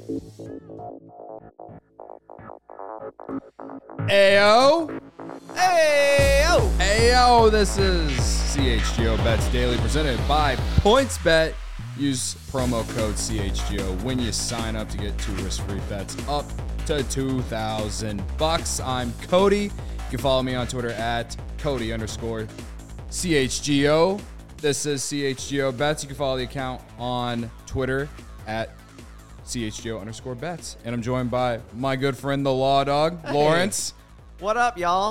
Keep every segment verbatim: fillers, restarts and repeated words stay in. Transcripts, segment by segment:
Ayo! Ayo! Ayo! This is C H G O Bets Daily presented by PointsBet. Use promo code C H G O when you sign up to get two risk-free bets up to two thousand bucks. I'm Cody. You can follow me on Twitter at Cody underscore C H G O. This is C H G O Bets. You can follow the account on Twitter at C H G O underscore bets. And I'm joined by my good friend, the Law Dog, hey. Lawrence. What up, y'all?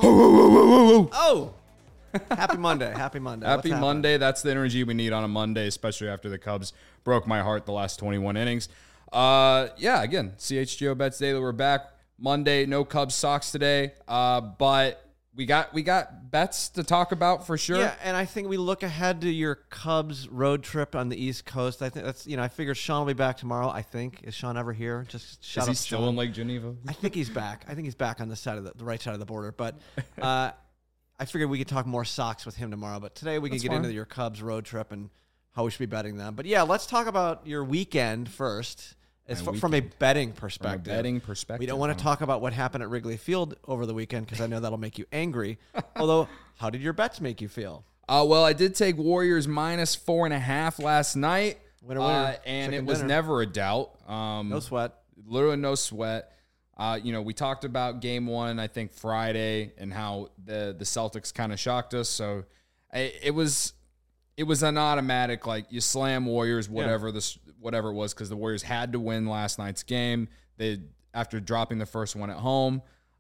Oh, happy Monday. Happy Monday. Happy Monday. That's the energy we need on a Monday, especially after the Cubs broke my heart the last twenty-one innings. Uh, yeah, again, C H G O Bets Daily. We're back Monday. No Cubs Sox today, uh, but we got we got bets to talk about for sure. Yeah, and I think we look ahead to your Cubs road trip on the East Coast. I think that's, you know, I figured Sean will be back tomorrow. I think. Is Sean ever here? Just shout Is he out still Sean. in Lake Geneva? I think he's back. I think he's back on the side of the, the right side of the border. But uh, I figured we could talk more Sox with him tomorrow. But today we can That's get fine. into your Cubs road trip and how we should be betting them. But yeah, let's talk about your weekend first. As f- from a betting perspective. From a betting perspective. We don't want to talk about what happened at Wrigley Field over the weekend because I know that'll make you angry. Although, how did your bets make you feel? Uh, well, I did take Warriors minus four and a half last night. Winner, winner. Uh, and Chicken it was dinner. never a doubt. Um, No sweat. Literally no sweat. Uh, you know, we talked about game one, I think Friday, and how the, the Celtics kind of shocked us. So I, it was it was an automatic, like, you slam Warriors, whatever yeah. this whatever it was, because the Warriors had to win last night's game. They after dropping the first one at home.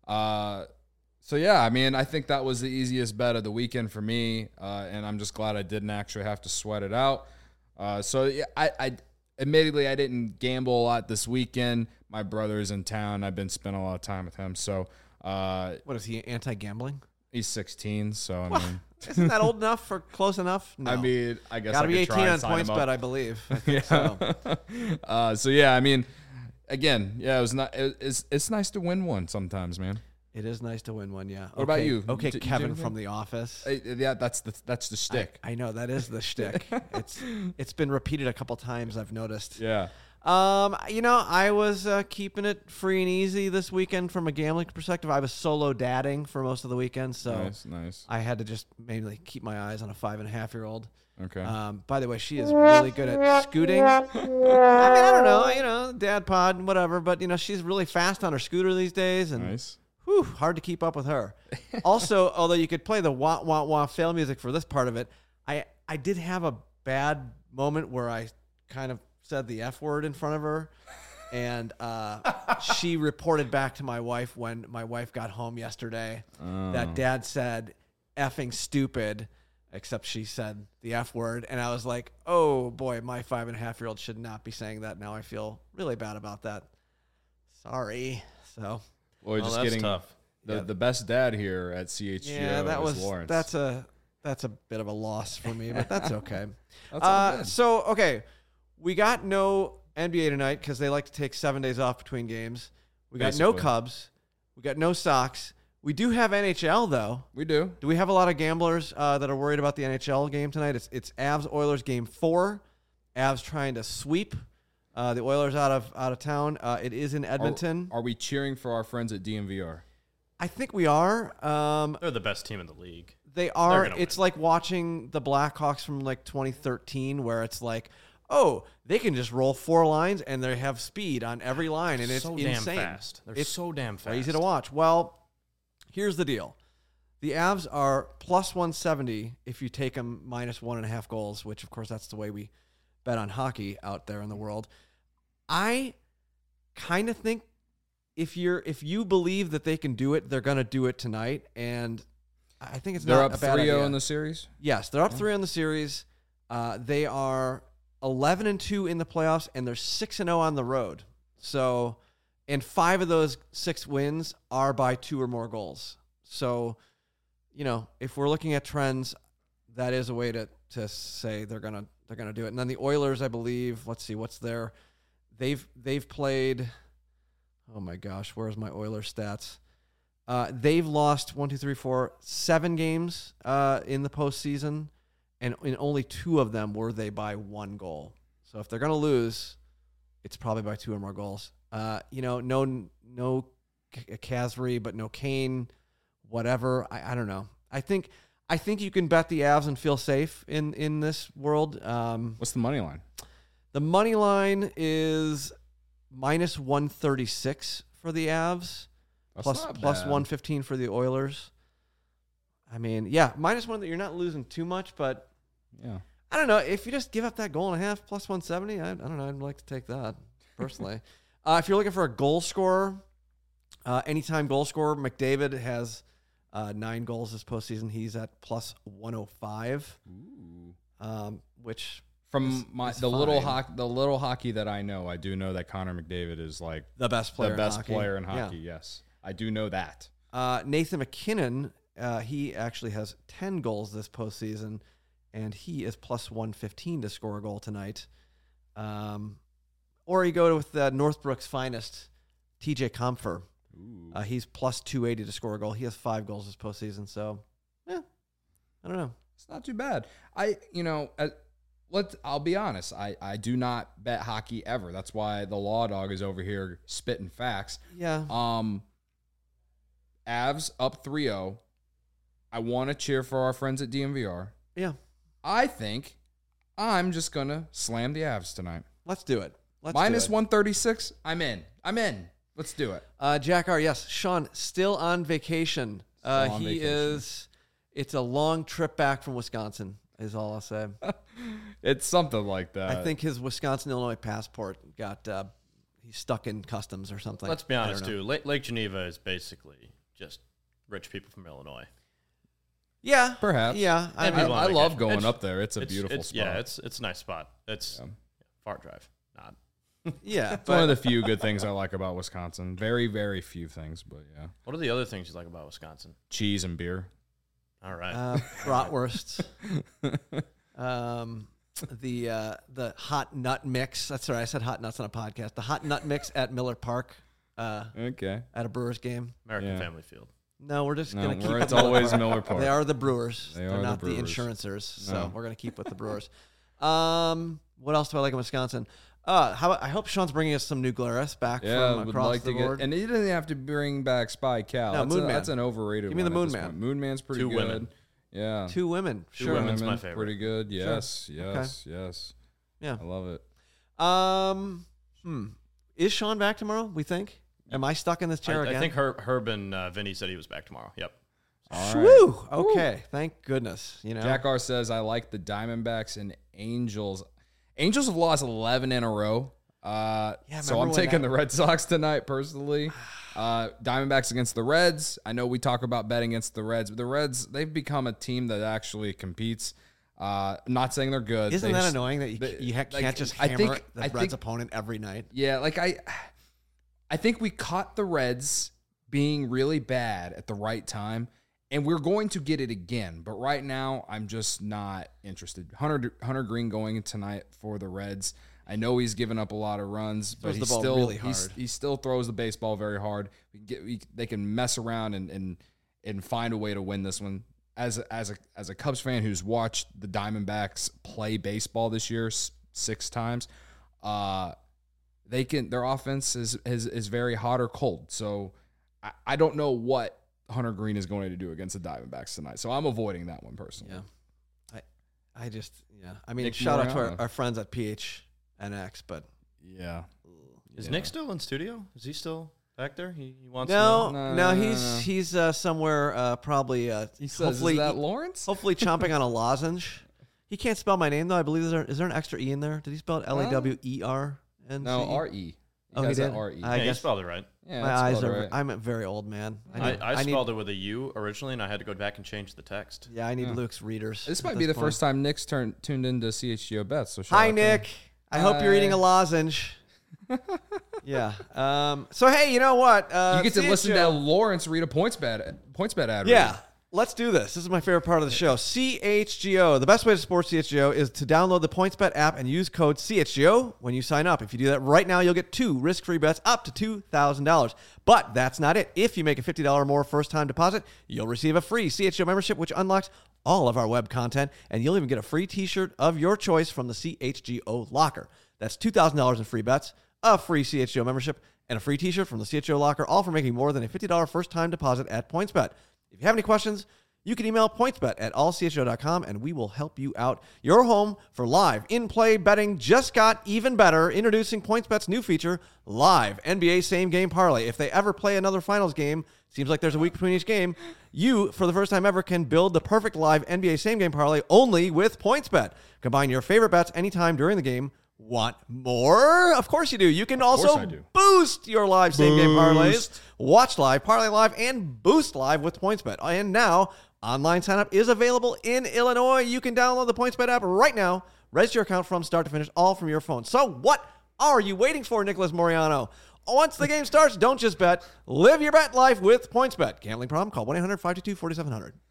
Uh, so yeah, I mean, I think that was the easiest bet of the weekend for me, uh, and I'm just glad I didn't actually have to sweat it out. Uh, so yeah, I, I admittedly I didn't gamble a lot this weekend. My brother's in town. I've been spending a lot of time with him. So uh, what is he, anti-gambling? He's sixteen. So I well, mean, isn't that old enough for close enough? No. I mean, I guess gotta I be could try eighteen and on sign him PointsBet, up. I believe. I think yeah. so. uh, so yeah, I mean, again, yeah, it was not. It, it's it's nice to win one sometimes, man. It is nice to win one, yeah. What okay. about you? Okay, Did, Kevin from The Office. Uh, yeah, that's the that's the shtick. I, I know that is the shtick. It's it's been repeated a couple times. I've noticed. Yeah. Um, you know, I was uh, keeping it free and easy this weekend from a gambling perspective. I was solo dadding for most of the weekend, so nice, nice. I had to just mainly keep my eyes on a five and a half year old. Okay. Um, by the way, she is really good at scooting. I mean, I don't know, you know, dad pod and whatever, but you know, she's really fast on her scooter these days, and nice. Whew, hard to keep up with her. Also, although you could play the wah wah wah fail music for this part of it, I I did have a bad moment where I kind of said the F word in front of her, and uh, she reported back to my wife when my wife got home yesterday oh. that dad said effing stupid, except she said the F word, and I was like, oh boy, my five and a half year old should not be saying that. Now I feel really bad about that. Sorry. So. Well, well just that's getting tough. The, yeah. the best dad here at C H G O Yeah, that was Lawrence. that's a that's a bit of a loss for me, but that's okay. That's all uh, good. so okay, we got no N B A tonight because they like to take seven days off between games. We got Basically. no Cubs. We got no Sox. We do have N H L though. We do. Do we have a lot of gamblers uh, that are worried about the N H L game tonight? It's it's Avs Oilers game four. Avs trying to sweep uh, the Oilers out of out of town. Uh, it is in Edmonton. Are, are we cheering for our friends at D M V R? I think we are. Um, They're the best team in the league. They are. gonna It's win. like watching the Blackhawks from like twenty thirteen, where it's like, oh, they can just roll four lines and they have speed on every line, and it's so insane. damn fast. They're it's so damn fast. Easy to watch. Well, here's the deal: the Avs are plus one seventy if you take them minus one and a half goals, which of course that's the way we bet on hockey out there in the world. I kind of think if you're if you believe that they can do it, they're going to do it tonight, and I think it's They're not up a bad three oh idea. in the series? Yes, they're up three on the series. Uh, they are eleven and two in the playoffs, and they're six and zero on the road. So, and five of those six wins are by two or more goals. So, you know, if we're looking at trends, that is a way to to say they're gonna they're gonna do it. And then the Oilers, I believe. Let's see, what's their they've they've played. Oh my gosh, where's my Oilers stats? Uh, they've lost one, two, three, four, seven games uh, in the postseason, and in only two of them were they by one goal. So if they're going to lose, it's probably by two or more goals. Uh, you know, no no Kasri, but no Kane, whatever. I, I don't know. I think I think you can bet the Avs and feel safe in, in this world. Um, What's the money line? the money line is minus one thirty-six for the Avs, That's plus not plus bad. one fifteen for the Oilers. I mean, yeah, minus one that you're not losing too much, but Yeah. I don't know. If you just give up that goal and a half plus one seventy, I, I don't know. I'd like to take that personally. uh, if you're looking for a goal scorer, uh, anytime goal scorer, McDavid has uh, nine goals this postseason. He's at plus one oh five, Ooh. um, which From is- my is the little fine. hockey, the little hockey that I know, I do know that Connor McDavid is like the best player the best in hockey. player in Yeah. hockey. Yes, I do know that. Uh, Nathan McKinnon, uh, he actually has ten goals this postseason, and he is plus one fifteen to score a goal tonight. Um, or you go with uh, Northbrook's finest, T J Comfer. Ooh. Uh, he's plus two eighty to score a goal. He has five goals this postseason, so yeah, I don't know. It's not too bad. I, you know, uh, let I'll be honest. I, I do not bet hockey ever. That's why the Law Dog is over here spitting facts. Yeah, Um, Avs up three oh. I want to cheer for our friends at D M V R. yeah. I think I'm just gonna slam the Avs tonight. Let's do it. Let's Minus do it. one thirty-six. I'm in. I'm in. Let's do it. Uh, Jack R. Yes, Sean still on vacation. Uh, Still on he vacation. is. It's a long trip back from Wisconsin. Is all I'll say. It's something like that. I think his Wisconsin Illinois passport got uh, he's stuck in customs or something. Let's be I don't honest, know. too. Lake, Lake Geneva is basically just rich people from Illinois. Yeah, Perhaps. Yeah, I, And I, people mean, on I love vacation. going It's- up there. It's a It's- beautiful it's, spot. Yeah, it's it's a nice spot. It's Yeah. far drive. Not. yeah. It's one of But the few good things I like about Wisconsin. Very, very few things, but yeah. What are the other things you like about Wisconsin? Cheese and beer. All right. uh, bratwursts, um, the uh, the hot nut mix. That's right. I said hot nuts on a podcast. The hot nut mix at Miller Park, uh, Okay. at a Brewers game. American yeah. Family Field. No, we're just No, gonna keep. we're- with it's Miller always Park. Miller Park. They are the Brewers. They They're are the not the, Brewers. insurancers. So No. we're gonna keep with the Brewers. Um, what else do I like in Wisconsin? Uh, how about, I hope Sean's bringing us some new Glarus back Yeah, from would across like the to board. get, and he doesn't have to bring back Spy Cal. No, that's, Moon a, Man. that's an overrated. Give me the one at Moon this Man. point. Moon Man's pretty Two good. women. Yeah, Two women. Two Sure. women's my women, favorite. Pretty good. Yes, yes, yes. Yeah. I love it. Um, hmm. Is Sean back tomorrow? We think. Am I stuck in this chair I, again? I think Herb, Herb and uh, Vinny said he was back tomorrow. Yep. All right. Whew. Okay. Thank goodness. You know. Jack R says I like the Diamondbacks and Angels. Angels have lost eleven in a row. Uh, Yeah, so remember I'm when taking that- the Red Sox tonight personally. Uh, Diamondbacks against the Reds. I know we talk about betting against the Reds, but the Reds, they've become a team that actually competes. Uh, I'm not saying they're good. Isn't They that just- annoying that you, they- you ha- like, can't just I hammer think- the I Reds think- opponent every night? Yeah, like I I think we caught the Reds being really bad at the right time, and we're going to get it again. But right now, I'm just not interested. Hunter Hunter Green going tonight for the Reds. I know he's given up a lot of runs, but Throws he the ball still really he's, hard. he still throws the baseball very hard. We get we, they can mess around and and and find a way to win this one. As a, as a as a Cubs fan who's watched the Diamondbacks play baseball this year s- six times, uh, they can their offense is is is very hot or cold. So I, I don't know what Hunter Green is going to do against the Diamondbacks tonight. So I'm avoiding that one personally. Yeah. I I just yeah. I mean, Nick shout out to our, Mariano. our friends at P H N X, but Yeah. Is Yeah. Nick still in studio? Is he still back there? He, he wants no, to no, know? No, no, he's no, no. he's uh, somewhere uh, probably uh, He says, hopefully is that Lawrence? hopefully chomping on a lozenge. He can't spell my name though. I believe is there is there an extra e in there? Did he spell it L A W E R N C E? No, R E. Oh, he has that did? R E. I Yeah, you guess- spelled it right. Yeah, My that's eyes spelled are. right. I'm a very old man. I, need- I, need- spelled it with a U originally, and I had to go back and change the text. Yeah, I need Yeah. Luke's readers. This at might be the point. first time Nick's turned tuned into C H G O Bets. So shout Hi, out to Nick. him. I hope you're eating a Hi. lozenge. yeah. Um, so hey, you know what? Uh, You get to C H G O listen to Lawrence read a points bet points bet ad. Yeah. read. Let's do this. This is my favorite part of the show. C H G O. The best way to support C H G O is to download the PointsBet app and use code C H G O when you sign up. If you do that right now, you'll get two risk-free bets up to two thousand dollars. But that's not it. If you make a fifty dollars or more first-time deposit, you'll receive a free C H G O membership, which unlocks all of our web content, and you'll even get a free t-shirt of your choice from the C H G O locker. That's two thousand dollars in free bets, a free C H G O membership, and a free t-shirt from the C H O Locker, all for making more than a fifty dollars first-time deposit at PointsBet. If you have any questions, you can email pointsbet at all c h o dot com, and we will help you out. Your home for live in-play betting just got even better. Introducing PointsBet's new feature, Live N B A Same Game Parlay. If they ever play another finals game, seems like there's a week between each game, you, for the first time ever, can build the perfect live N B A Same Game Parlay only with PointsBet. Combine your favorite bets anytime during the game. Want more? Of course you do. You can also boost your live same game parlays, watch live, parlay live, and boost live with PointsBet. And now, online signup is available in Illinois. You can download the PointsBet app right now. Register your account from start to finish, all from your phone. So what are you waiting for, Nicholas Moriano? Once the game starts, don't just bet. Live your bet life with PointsBet. Gambling problem? Call one eight hundred five two two four seven zero zero.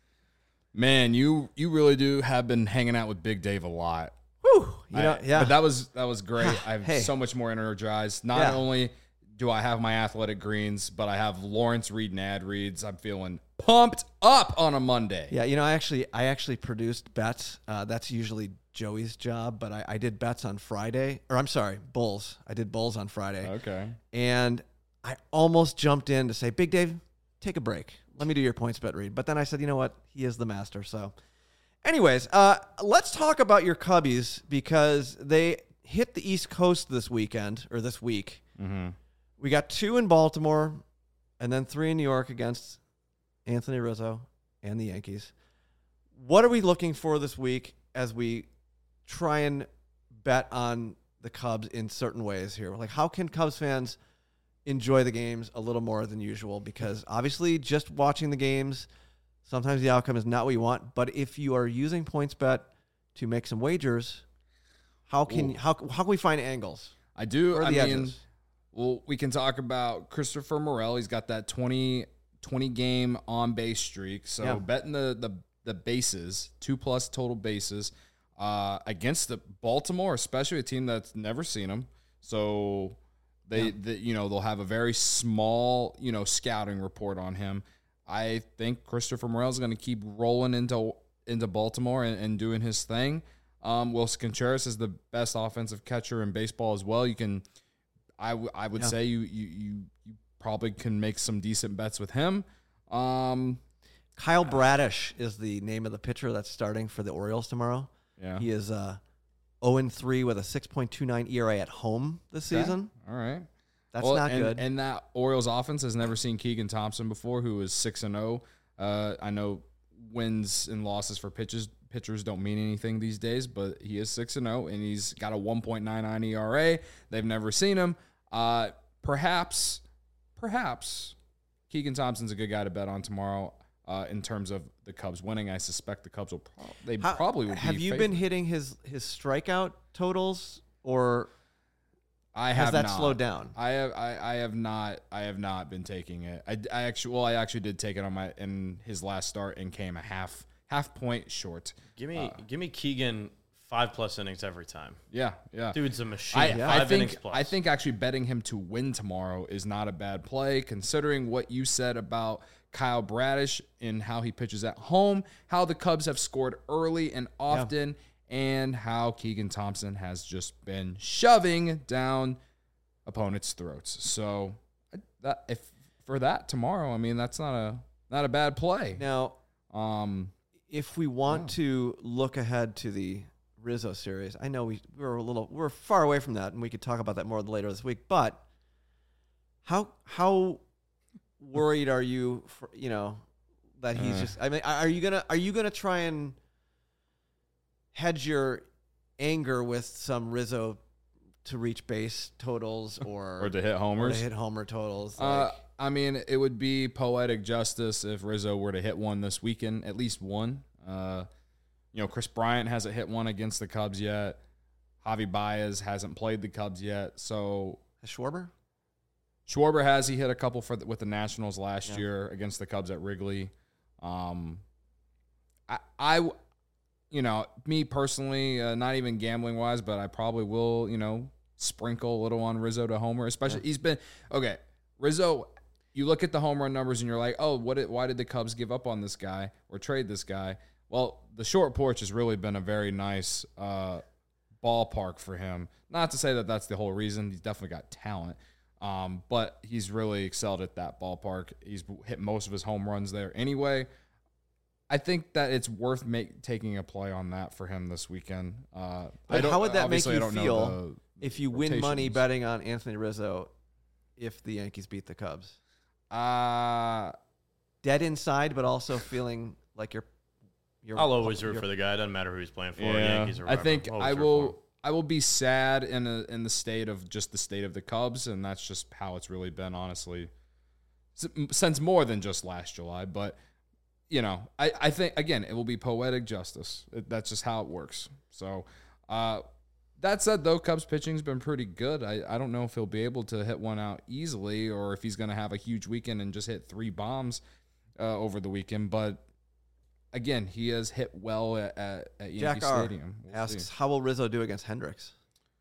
Man, you you really do have been hanging out with Big Dave a lot. Whew, you know, I, yeah. But that was that was great. I'm Hey. so much more energized. Not Yeah. only do I have my athletic greens, but I have Lawrence Reed and ad reads. I'm feeling pumped up on a Monday. Yeah, you know, I actually I actually produced bets. Uh, that's usually Joey's job, but I, I did bets on Friday. Or I'm sorry, Bulls. I did Bulls on Friday. Okay. And I almost jumped in to say, Big Dave, take a break. Let me do your points bet read. But then I said, you know what? He is the master. So anyways, uh, let's talk about your Cubbies because they hit the East Coast this weekend, or this week. Mm-hmm. We got two in Baltimore and then three in New York against Anthony Rizzo and the Yankees. What are we looking for this week as we try and bet on the Cubs in certain ways here? Like, how can Cubs fans enjoy the games a little more than usual? Because obviously just watching the games, sometimes the outcome is not what you want. But if you are using PointsBet to make some wagers, how can Ooh. how how can we find angles? I do. Where are I the mean, edges? well, we can talk about Christopher Morel. He's got that twenty, twenty game on base streak. So Yeah. betting the, the the bases, two plus total bases, uh, against the Baltimore, especially a team that's never seen him. So they, Yeah. the, you know, they'll have a very small, you know, scouting report on him. I think Christopher Morel is going to keep rolling into into Baltimore and, and doing his thing. Um, Wilson Contreras is the best offensive catcher in baseball as well. You can, I, w- I would Yeah. say you, you you you probably can make some decent bets with him. Um, Kyle Bradish is the name of the pitcher that's starting for the Orioles tomorrow. yeah. He is uh, oh and three with a six point two nine E R A at home this Okay. season. All right. That's Well, not and, good. And that Orioles offense has never seen Keegan Thompson before, who is six and zero. Uh, I know wins and losses for pitchers pitchers don't mean anything these days, but he is six and zero, and he's got a one point nine nine E R A. They've never seen him. Uh, perhaps, perhaps Keegan Thompson's a good guy to bet on tomorrow. Uh, in terms of the Cubs winning, I suspect the Cubs will pro- they How- probably would. have be you favored. been hitting his his strikeout totals, or I has have that not. slowed down? I have I, I have not I have not been taking it. I, I actually well I actually did take it on my in his last start and came a half half point short. Give me, Uh, give me Keegan five plus innings every time. Yeah, yeah. Dude's a machine. I, Five I innings think plus. I think actually betting him to win tomorrow is not a bad play, considering what you said about Kyle Bradish and how he pitches at home, how the Cubs have scored early and often, and how Keegan Thompson has just been shoving down opponents' throats. So that if for that tomorrow, I mean that's not a not a bad play. Now, Um, if we want Yeah. to look ahead to the Rizzo series, I know we we're a little we're far away from that, and we could talk about that more later this week. But how how worried are you? For, you know that he's Uh. just. I mean, are you gonna are you gonna try and hedge your anger with some Rizzo to reach base totals or or to hit or homers. to hit homer totals? Uh, Like, I mean, it would be poetic justice if Rizzo were to hit one this weekend, at least one. Uh, you know, Chris Bryant hasn't hit one against the Cubs yet. Javi Baez hasn't played the Cubs yet. So Schwarber? Schwarber has. He hit a couple for the, with the Nationals last Yeah. year against the Cubs at Wrigley. Um, I, I, you know, me personally, uh, not even gambling wise, but I probably will, you know, sprinkle a little on Rizzo to homer. Especially Yeah. he's been okay. Rizzo, you look at the home run numbers and you're like, oh, what? Did, why did the Cubs give up on this guy or trade this guy? Well, the short porch has really been a very nice uh, ballpark for him. Not to say that that's the whole reason. He's definitely got talent. Um, but he's really excelled at that ballpark. He's hit most of his home runs there anyway. I think that it's worth make, taking a play on that for him this weekend. Uh, I But don't- how would that make obviously I you don't know feel the if you win money rotations. betting on Anthony Rizzo if the Yankees beat the Cubs? Uh, Dead inside, but also feeling like you're. you're I'll always root you're- for the guy. It doesn't matter who he's playing for, yeah, Yankees or I whatever. think I'll I always root for him. will. I will be sad in a, in the state of just the state of the Cubs, and that's just how it's really been, honestly, S- since more than just last July. But you know, I, I think again it will be poetic justice. It, that's just how it works. So, uh, that said, though, Cubs pitching's been pretty good. I, I don't know if he'll be able to hit one out easily, or if he's going to have a huge weekend and just hit three bombs uh, over the weekend. But again, he has hit well at, at, at Yankee Jack R. Stadium. We'll asks, see. how will Rizzo do against Hendricks?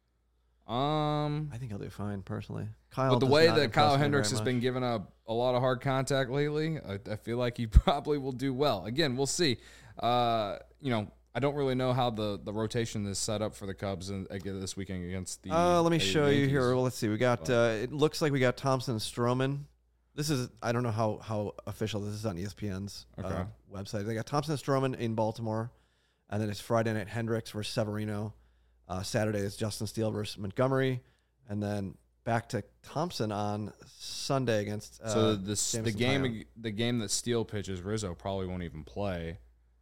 Um, I think he'll do fine, personally. Kyle but the does way not that impress Kyle me Hendricks very has much. been given a, a lot of hard contact lately, I, I feel like he probably will do well. Again, we'll see. Uh, you know, I don't really know how the, the rotation is set up for the Cubs in, again this weekend against the. Uh, let me the show you Yankees. here. Well, let's see. We got. Uh, it looks like we got Thompson and Stroman. This is. I don't know how how official this is on E S P N's uh, Okay. website. They got Thompson and Stroman in Baltimore, and then it's Friday night Hendricks versus Severino. Uh, Saturday is Justin Steele versus Montgomery, and then back to Thompson on Sunday against. Uh, So the the Jameson game Taillon. the game that Steele pitches, Rizzo probably won't even play.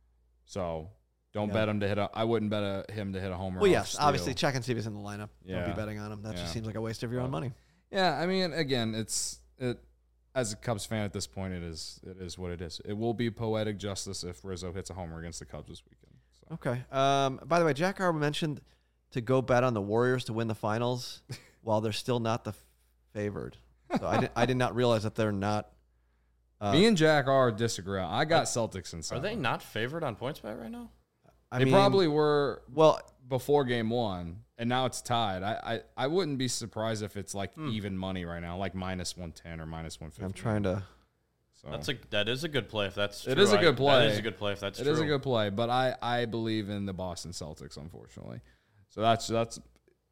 So don't Yeah. bet him to hit a. I wouldn't bet a, him to hit a homer. Well, off yes, Steele. obviously check and see if he's in the lineup. Don't Yeah. be betting on him. That Yeah. just seems like a waste of your own But- money. Yeah, I mean, again, it's it. As a Cubs fan at this point, it is it is what it is. It will be poetic justice if Rizzo hits a homer against the Cubs this weekend. So. Okay. Um, by the way, Jack R mentioned to go bet on the Warriors to win the finals while they're still not the f- favored. So I did, I did not realize that they're not. Uh, Me and Jack R disagree. I got Celtics in Are seven. they not favored on PointsBet right now? I They mean, probably were Well, before game one, and now it's tied. I, I, I wouldn't be surprised if it's like Hmm. even money right now, like minus one ten or minus one fifty. I'm trying to. So That's a that is a good play if that's It true. is a I- good play. That is a good play if that's It true. is a good play, but I, I believe in the Boston Celtics, unfortunately. So that's that's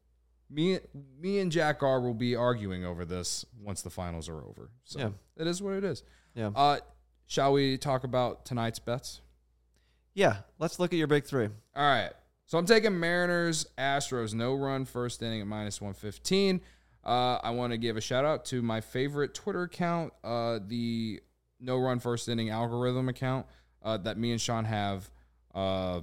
me. Me and Jack R will be arguing over this once the finals are over. So Yeah. it is what it is. Yeah. Uh, shall we talk about tonight's bets? Yeah. Let's look at your big three. All right. So I'm taking Mariners, Astros, no run first inning at minus one fifteen. Uh, I want to give a shout out to my favorite Twitter account, uh, the no run first inning algorithm account uh, that me and Sean have. Uh,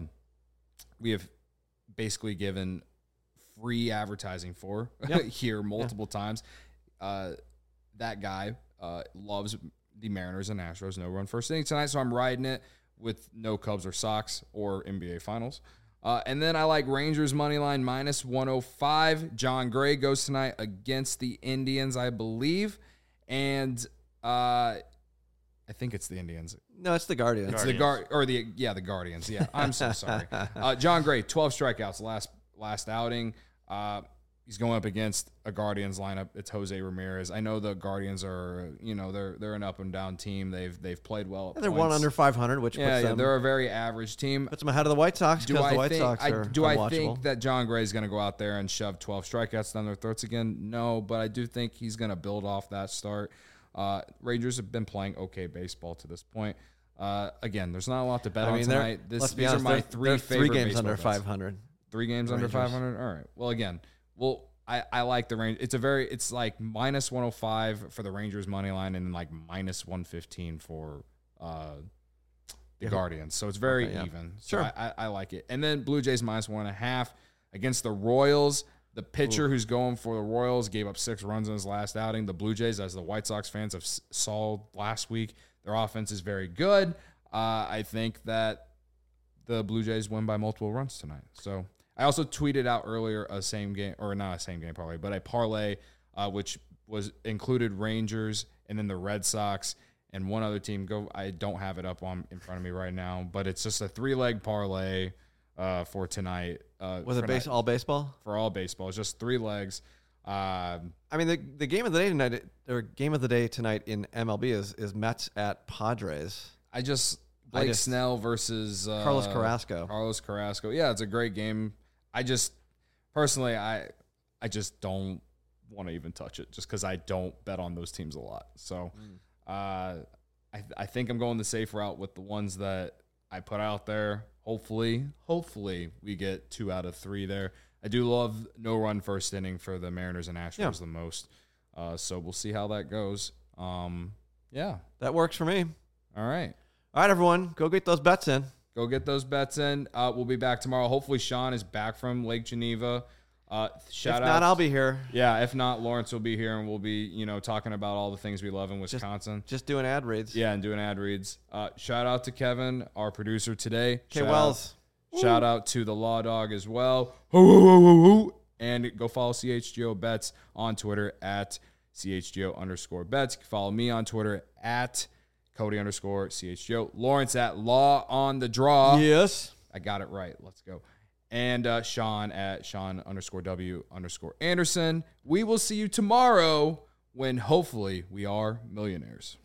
we have basically given free advertising for Yep. here multiple times. Uh, that guy uh, loves the Mariners and Astros no run first inning tonight, so I'm riding it with no Cubs or Sox or N B A Finals. Uh, and then I like Rangers money line minus one oh five. John Gray goes tonight against the Indians, I believe. And uh, I think it's the Indians. No, it's the Guardians. It's the Guard or the yeah, the Guardians. Yeah, I'm so sorry. Uh, John Gray, twelve strikeouts last last outing. Uh, he's going up against a Guardians lineup. It's Jose Ramirez. I know the Guardians are, you know, they're they're an up and down team. They've they've played well. At And they're one points. under five hundred, which Yeah, puts, yeah, them, they're a very average team. puts them ahead of the White Sox Do because I the White think Sox I, are do I unwatchable. think that John Gray is going to go out there and shove twelve strikeouts down their throats again? No, but I do think he's going to build off that start. Uh, Rangers have been playing okay baseball to this point. Uh, again, there's not a lot to bet I on mean, they're- tonight. This, let's be these honest, are my they're- three they're favorite three games baseball under bets. five hundred. Three games under Rangers. five hundred. All right. Well, again, well, I, I like the range. It's a very, it's like minus one oh five for the Rangers money line and like minus one fifteen for uh, the Yeah. Guardians. So it's very Okay, yeah. even. So Sure. I, I, I like it. And then Blue Jays minus one and a half against the Royals. The pitcher who's going for the Royals gave up six runs in his last outing. The Blue Jays, as the White Sox fans have s- saw last week, their offense is very good. Uh, I think that the Blue Jays win by multiple runs tonight. So I also tweeted out earlier a same game, or not a same game parlay, but a parlay uh, which was included Rangers and then the Red Sox and one other team. Go, I don't have it up on in front of me right now, but it's just a three leg parlay uh, for tonight. Uh, Was it for base, night- all baseball? for all baseball? It's just three legs. Um, I mean, the the game of the day tonight, or game of the day tonight in M L B is is Mets at Padres. I just I Blake just- Snell versus uh, Carlos Carrasco. Carlos Carrasco. Yeah, it's a great game. I just personally, I I just don't want to even touch it just because I don't bet on those teams a lot. So uh, I, I think I'm going the safe route with the ones that I put out there. Hopefully, hopefully we get two out of three there. I do love no run first inning for the Mariners and Astros Yeah. the most. Uh, so we'll see how that goes. Um, yeah. That works for me. All right. All right, everyone, go get those bets in. Go get those bets in. Uh, we'll be back tomorrow. Hopefully Sean is back from Lake Geneva. Uh, shout if out. not, I'll be here. Yeah, if not, Lawrence will be here, and we'll be, you know, talking about all the things we love in Wisconsin. Just doing ad reads. Yeah, and doing ad reads. Uh, shout out to Kevin, our producer today. K Shout Wells. Out, shout out to the Law Dog as well. Hoo, hoo, hoo, hoo, hoo. And go follow C H G O Bets on Twitter at C H G O underscore bets. Follow me on Twitter at Cody underscore C H G O. Lawrence at Law on the Draw. Yes. I got it right. Let's go. And uh, Sean at Sean underscore W underscore Anderson. We will see you tomorrow when hopefully we are millionaires.